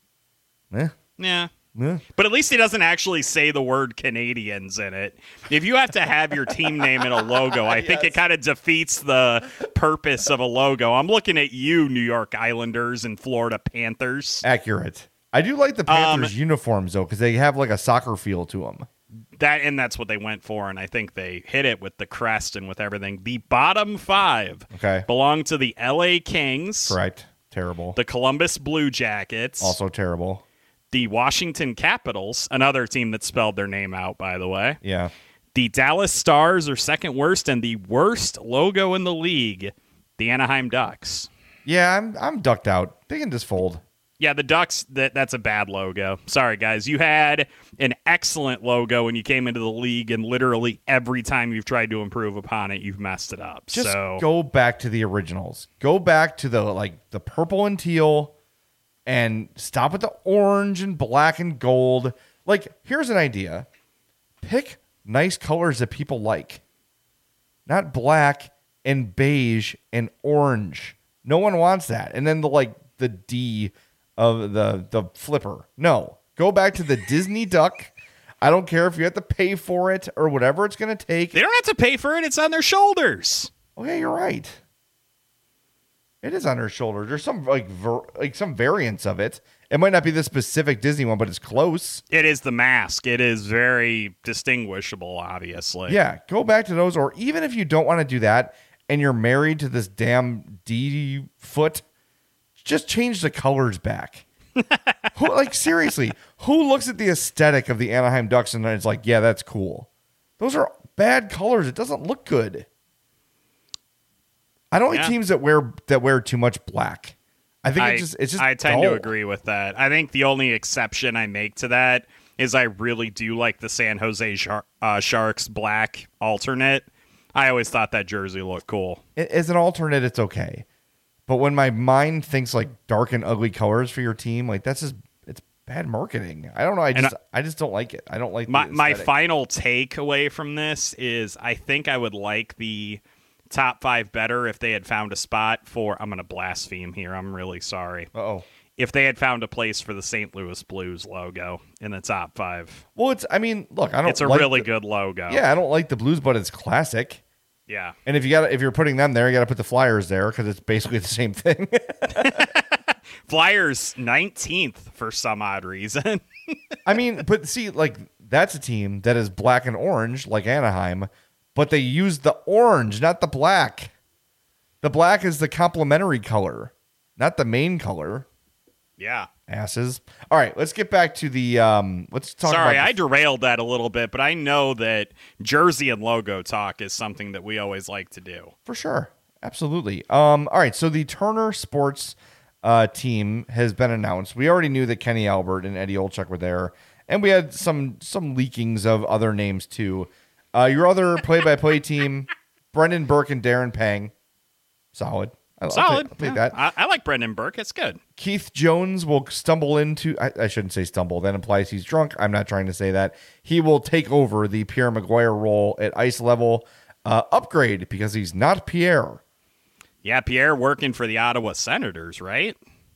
Yeah. But at least he doesn't actually say the word Canadians in it. If you have to have your team name in a logo, I think it kind of defeats the purpose of a logo. I'm looking at you, New York Islanders and Florida Panthers. Accurate. I do like the Panthers uniforms, though, because they have like a soccer feel to them. That's what they went for, and I think they hit it with the crest and with everything. The bottom 5 belong to the LA Kings. Correct. Terrible. The Columbus Blue Jackets. Also terrible. The Washington Capitals, another team that spelled their name out, by the way. Yeah. The Dallas Stars are second worst, and the worst logo in the league, the Anaheim Ducks. Yeah, I'm ducked out. They can just fold. Yeah, the Ducks, that's a bad logo. Sorry, guys. You had an excellent logo when you came into the league, and literally every time you've tried to improve upon it, you've messed it up. Just go back to the originals. Go back to the purple and teal, and stop with the orange and black and gold. Like, here's an idea. Pick nice colors that people like. Not black and beige and orange. No one wants that. And then the D of the flipper. No. Go back to the Disney duck. I don't care if you have to pay for it or whatever it's going to take. They don't have to pay for it. It's on their shoulders. Okay, you're right. It is on her shoulders. There's some some variants of it. It might not be the specific Disney one, but it's close. It is the mask. It is very distinguishable, obviously. Yeah, go back to those. Or even if you don't want to do that and you're married to this damn D foot, just change the colors back. Seriously, who looks at the aesthetic of the Anaheim Ducks and is like, yeah, that's cool? Those are bad colors. It doesn't look good. I don't like teams that wear too much black. I think it's just I tend dull. to agree with that. I think the only exception I make to that is I really do like the San Jose Sharks black alternate. I always thought that jersey looked cool. As an alternate, it's okay. But when my mind thinks like dark and ugly colors for your team, like it's bad marketing. I don't know. I just don't like it. I don't like my final takeaway from this is I think I would like the top 5 better if they had found a spot for, I'm going to blaspheme here. I'm really sorry. Uh-oh. If they had found a place for the St. Louis Blues logo in the top 5. Well, it's a really good logo. Yeah, I don't like the Blues, but it's classic. Yeah. And if you're putting them there, you got to put the Flyers there because it's basically the same thing. Flyers 19th for some odd reason. I mean, but see, like that's a team that is black and orange like Anaheim, but they use the orange, not the black. The black is the complementary color, not the main color. Yeah. Asses. All right, let's get back to the let's talk Sorry, about I derailed that a little bit, but I know that jersey and logo talk is something that we always like to do. For sure. Absolutely. All right, so the Turner Sports team has been announced. We already knew that Kenny Albert and Eddie Olczyk were there, and we had some leakings of other names too. Your other play-by-play team, Brendan Burke and Darren Pang. Solid. Solid. I'll take that. I like Brendan Burke. It's good. Keith Jones will stumble into... I shouldn't say stumble. That implies he's drunk. I'm not trying to say that. He will take over the Pierre Maguire role at ice level. Upgrade because he's not Pierre. Yeah, Pierre working for the Ottawa Senators, right?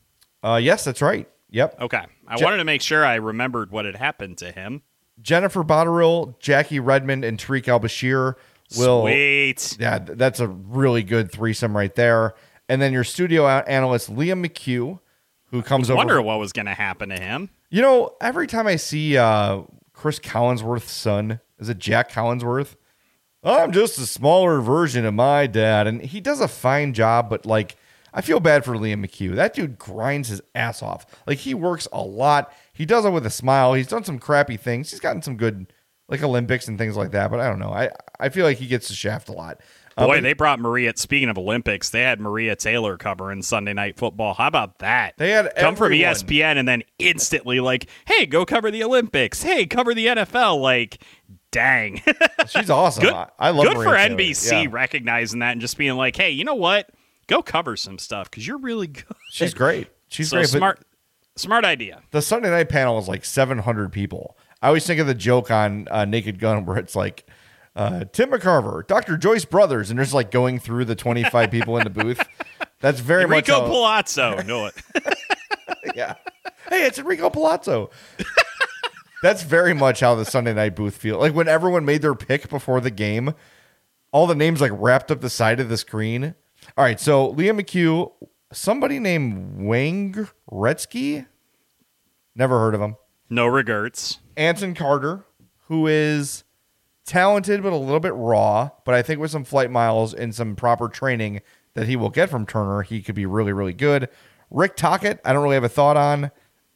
Yes, that's right. Yep. Okay. I wanted to make sure I remembered what had happened to him. Jennifer Botterill, Jackie Redmond, and Tariq Al-Bashir will... Sweet. Yeah, that's a really good threesome right there. And then your studio analyst, Liam McHugh, who comes over... I wonder what was going to happen to him. You know, every time I see Chris Collinsworth's son, is it Jack Collinsworth? I'm just a smaller version of my dad. And he does a fine job, but like, I feel bad for Liam McHugh. That dude grinds his ass off. Like, he works a lot. He does it with a smile. He's done some crappy things. He's gotten some good, like, Olympics and things like that. But I don't know. I feel like he gets the shaft a lot. Boy, they brought Maria. Speaking of Olympics, they had Maria Taylor covering Sunday Night Football. How about that? They had come from ESPN and then instantly like, hey, go cover the Olympics. Hey, cover the NFL. Like, dang, she's awesome. Good, I love. Good Maria for Taylor. NBC recognizing that and just being like, hey, you know what? Go cover some stuff because you're really good. She's great. She's so great. Smart idea. The Sunday night panel is like 700 people. I always think of the joke on Naked Gun where it's like. Tim McCarver, Dr. Joyce Brothers, and there's like going through the 25 people in the booth. That's very much Enrico Palazzo. Know it. Yeah. Hey, it's Enrico Palazzo. That's very much how the Sunday night booth feels. Like when everyone made their pick before the game, all the names like wrapped up the side of the screen. All right, so Liam McHugh, somebody named Wayne Gretzky. Never heard of him. No regrets. Anson Carter, who is talented but a little bit raw, but I think with some flight miles and some proper training that he will get from Turner, he could be really, really good. Rick Tocchet, I don't really have a thought on.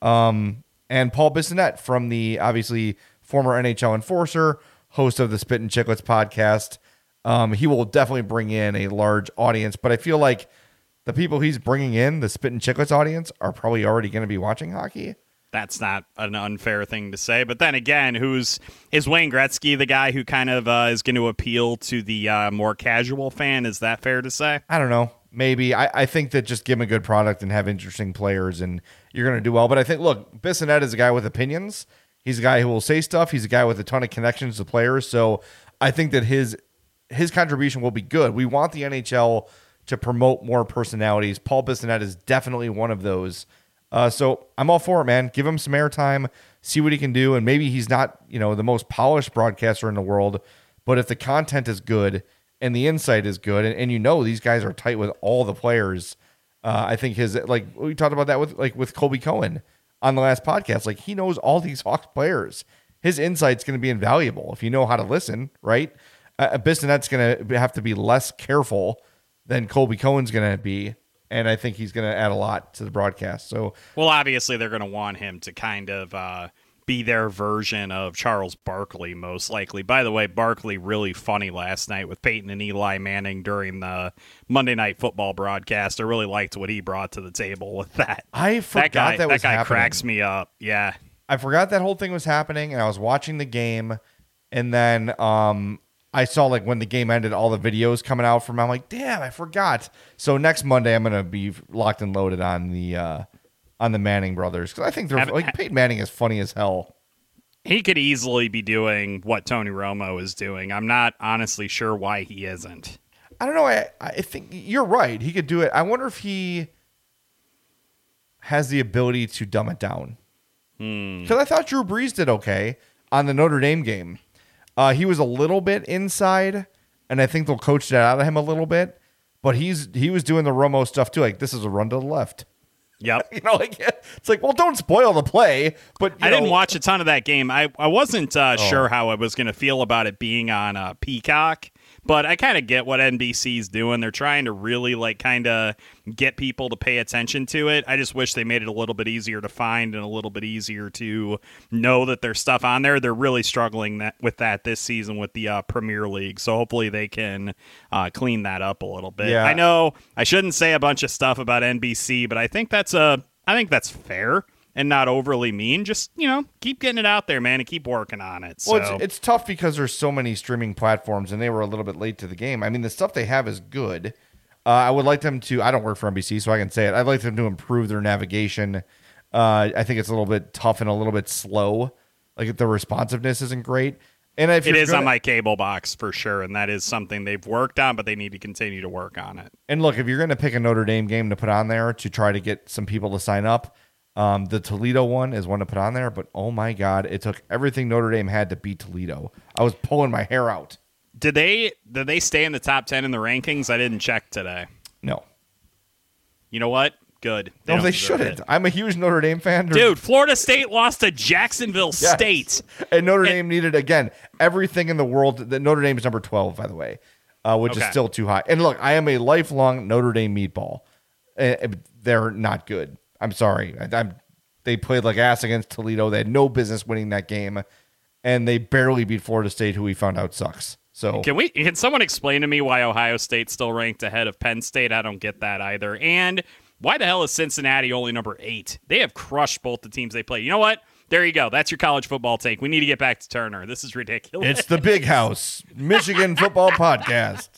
And Paul Bissonnette from the obviously former NHL enforcer, host of the Spit and Chicklets podcast. He will definitely bring in a large audience, but I feel like the people he's bringing in, the Spit and Chicklets audience, are probably already going to be watching hockey. That's not an unfair thing to say. But then again, is Wayne Gretzky the guy who kind of is going to appeal to the more casual fan? Is that fair to say? I don't know. Maybe. I think that just give him a good product and have interesting players and you're going to do well. But I think, look, Bissonnette is a guy with opinions. He's a guy who will say stuff. He's a guy with a ton of connections to players. So I think that his contribution will be good. We want the NHL to promote more personalities. Paul Bissonnette is definitely one of those. So I'm all for it, man. Give him some airtime, see what he can do. And maybe he's not, the most polished broadcaster in the world, but if the content is good and the insight is good, and these guys are tight with all the players, I think we talked about that with Colby Cohen on the last podcast. Like, he knows all these Hawks players. His insight's going to be invaluable if you know how to listen, right? Bissonnette's going to have to be less careful than Colby Cohen's going to be. And I think he's going to add a lot to the broadcast. So, well, obviously they're going to want him to kind of be their version of Charles Barkley, most likely. By the way, Barkley really funny last night with Peyton and Eli Manning during the Monday Night Football broadcast. I really liked what he brought to the table with that. I forgot that was that guy happening. cracks me up. Yeah. I forgot that whole thing was happening, and I was watching the game, and then I saw like when the game ended, all the videos coming out from. I'm like, damn, I forgot. So next Monday, I'm gonna be locked and loaded on the Manning brothers because I think they're like Peyton Manning is funny as hell. He could easily be doing what Tony Romo is doing. I'm not honestly sure why he isn't. I don't know. I think you're right. He could do it. I wonder if he has the ability to dumb it down. Because I thought Drew Brees did okay on the Notre Dame game. He was a little bit inside, and I think they'll coach that out of him a little bit. But he was doing the Romo stuff too. Like, this is a run to the left. Yep. It's like, well, don't spoil the play. But I didn't watch a ton of that game. I wasn't sure how I was going to feel about it being on Peacock. But I kind of get what NBC's doing. They're trying to really kind of get people to pay attention to it. I just wish they made it a little bit easier to find and a little bit easier to know that there's stuff on there. They're really struggling with that this season with the Premier League. So hopefully they can clean that up a little bit. Yeah. I know I shouldn't say a bunch of stuff about NBC, but I think that's fair. And not overly mean. Just, keep getting it out there, man, and keep working on it. So. Well, it's tough because there's so many streaming platforms, and they were a little bit late to the game. I mean, the stuff they have is good. I would like them to, I don't work for NBC, so I can say it. I'd like them to improve their navigation. I think it's a little bit tough and a little bit slow. Like, the responsiveness isn't great. And if it is on my cable box for sure, and that is something they've worked on, but they need to continue to work on it. And look, if you're going to pick a Notre Dame game to put on there to try to get some people to sign up, the Toledo one is one to put on there, but oh my God, it took everything Notre Dame had to beat Toledo. I was pulling my hair out. Did they stay in the top 10 in the rankings? I didn't check today. No. You know what? Good. They shouldn't. I'm a huge Notre Dame fan. Dude, Florida State lost to Jacksonville State. And Notre Dame needed, again, everything in the world. Notre Dame is number 12, by the way, which is still too high. And look, I am a lifelong Notre Dame meatball. They're not good. I'm sorry. They played like ass against Toledo. They had no business winning that game, and they barely beat Florida State, who we found out sucks. So can someone explain to me why Ohio State's still ranked ahead of Penn State? I don't get that either. And why the hell is Cincinnati only number 8? They have crushed both the teams they play. You know what? There you go. That's your college football take. We need to get back to Turner. This is ridiculous. It's the Big House Michigan football podcast.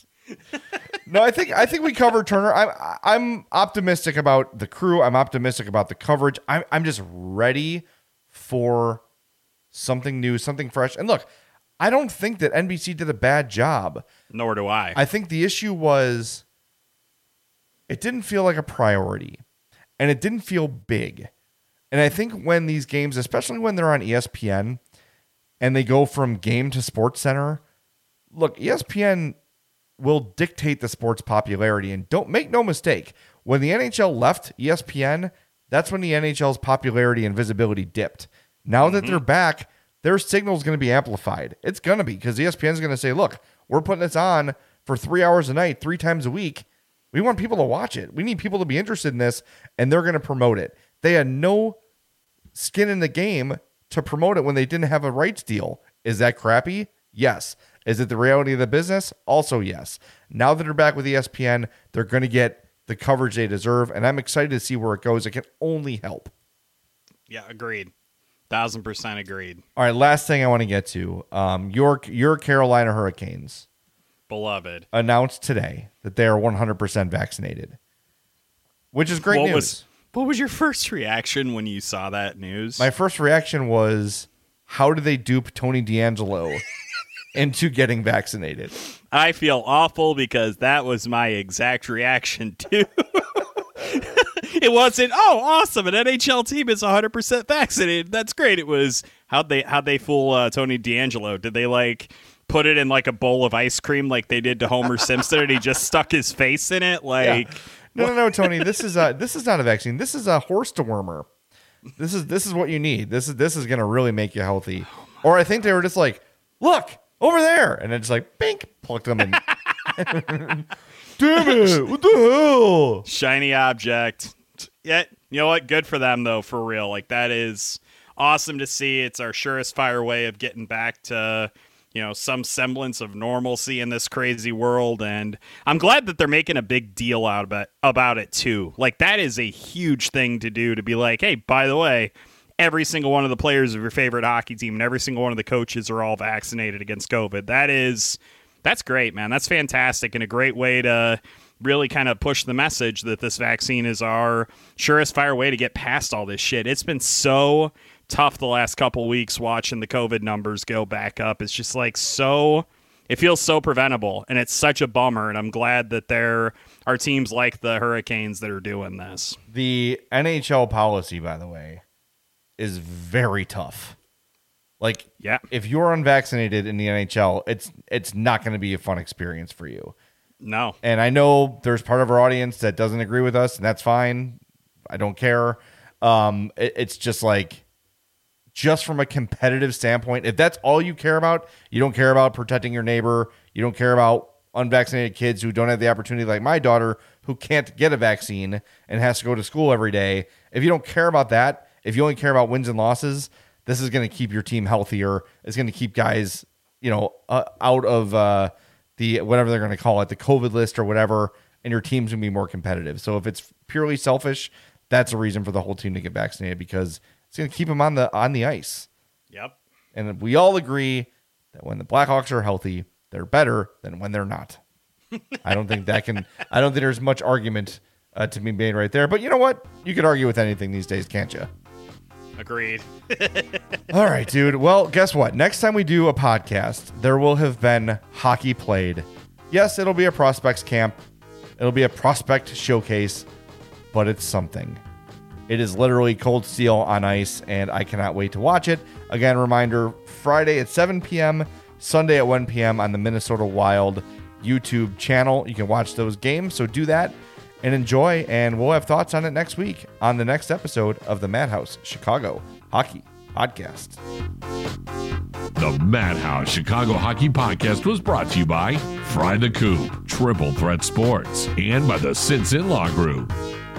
No, I think we covered Turner. I'm optimistic about the crew. I'm optimistic about the coverage. I'm just ready for something new, something fresh. And look, I don't think that NBC did a bad job. Nor do I. I think the issue was it didn't feel like a priority, and it didn't feel big. And I think when these games, especially when they're on ESPN and they go from game to Sports Center, look, ESPN will dictate the sport's popularity. And don't make no mistake, when the NHL left ESPN, that's when the NHL's popularity and visibility dipped. Now that they're back, their signal is going to be amplified. It's going to be, because ESPN is going to say, look, we're putting this on for 3 hours a night, 3 times a week. We want people to watch it. We need people to be interested in this, and they're going to promote it. They had no skin in the game to promote it when they didn't have a rights deal. Is that crappy? Yes. Is it the reality of the business? Also, yes. Now that they're back with ESPN, they're going to get the coverage they deserve, and I'm excited to see where it goes. It can only help. Yeah, agreed. 1,000% agreed. All right, last thing I want to get to. Your Carolina Hurricanes, beloved, announced today that they are 100% vaccinated, which is great news. What was your first reaction when you saw that news? My first reaction was, how did they dupe Tony D'Angelo into getting vaccinated? I feel awful because that was my exact reaction too. It wasn't, oh, awesome, an NHL team is 100% vaccinated. That's great. It was, how'd they fool Tony D'Angelo? Did they put it in like a bowl of ice cream like they did to Homer Simpson and he just stuck his face in it? Yeah. No, Tony. This is not a vaccine. This is a horse dewormer. This is what you need. This is going to really make you healthy. Or I think they were just like, look over there, and then just like, bink, plucked them in. Damn it! What the hell? Shiny object. Yeah, you know what? Good for them though, for real. Like, that is awesome to see. It's our surest fire way of getting back to, some semblance of normalcy in this crazy world. And I'm glad that they're making a big deal about it too. Like, that is a huge thing to do, to be like, hey, by the way, every single one of the players of your favorite hockey team and every single one of the coaches are all vaccinated against COVID. That's great, man. That's fantastic and a great way to really kind of push the message that this vaccine is our surest fire way to get past all this shit. It's been so tough the last couple weeks watching the COVID numbers go back up. It's just like it feels so preventable, and it's such a bummer, and I'm glad that there are teams like the Hurricanes that are doing this. The NHL policy, by the way, is very tough. Like, yeah, if you're unvaccinated in the NHL, it's not going to be a fun experience for you. No. And I know there's part of our audience that doesn't agree with us, and that's fine. I don't care. It's just like, just from a competitive standpoint, if that's all you care about, you don't care about protecting your neighbor, you don't care about unvaccinated kids who don't have the opportunity, like my daughter, who can't get a vaccine and has to go to school every day. If you don't care about that, if you only care about wins and losses, this is going to keep your team healthier. It's going to keep guys, out of the whatever they're going to call it, the COVID list or whatever, and your team's going to be more competitive. So if it's purely selfish, that's a reason for the whole team to get vaccinated, because it's going to keep them on the ice. Yep. And we all agree that when the Blackhawks are healthy, they're better than when they're not. I don't think there's much argument to be made right there. But you know what? You could argue with anything these days, can't you? Agreed. All right, dude. Well, guess what? Next time we do a podcast, there will have been hockey played. Yes, it'll be a prospects camp. It'll be a prospect showcase, but it's something. It is literally cold steel on ice, and I cannot wait to watch it. Again, reminder, Friday at 7 p.m., Sunday at 1 p.m. on the Minnesota Wild YouTube channel. You can watch those games, so do that and enjoy, and we'll have thoughts on it next week on the next episode of the Madhouse Chicago Hockey Podcast. The Madhouse Chicago Hockey Podcast was brought to you by Fry the Coop, Triple Threat Sports, and by the Sinson Law Group.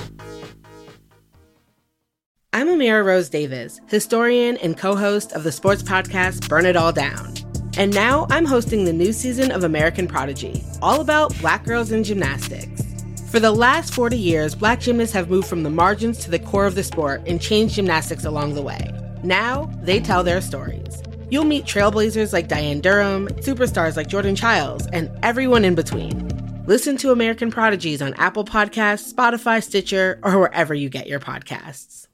I'm Amira Rose Davis, historian and co-host of the sports podcast Burn It All Down. And now I'm hosting the new season of American Prodigy, all about Black girls in gymnastics. For the last 40 years, Black gymnasts have moved from the margins to the core of the sport and changed gymnastics along the way. Now, they tell their stories. You'll meet trailblazers like Diane Durham, superstars like Jordan Childs, and everyone in between. Listen to American Prodigies on Apple Podcasts, Spotify, Stitcher, or wherever you get your podcasts.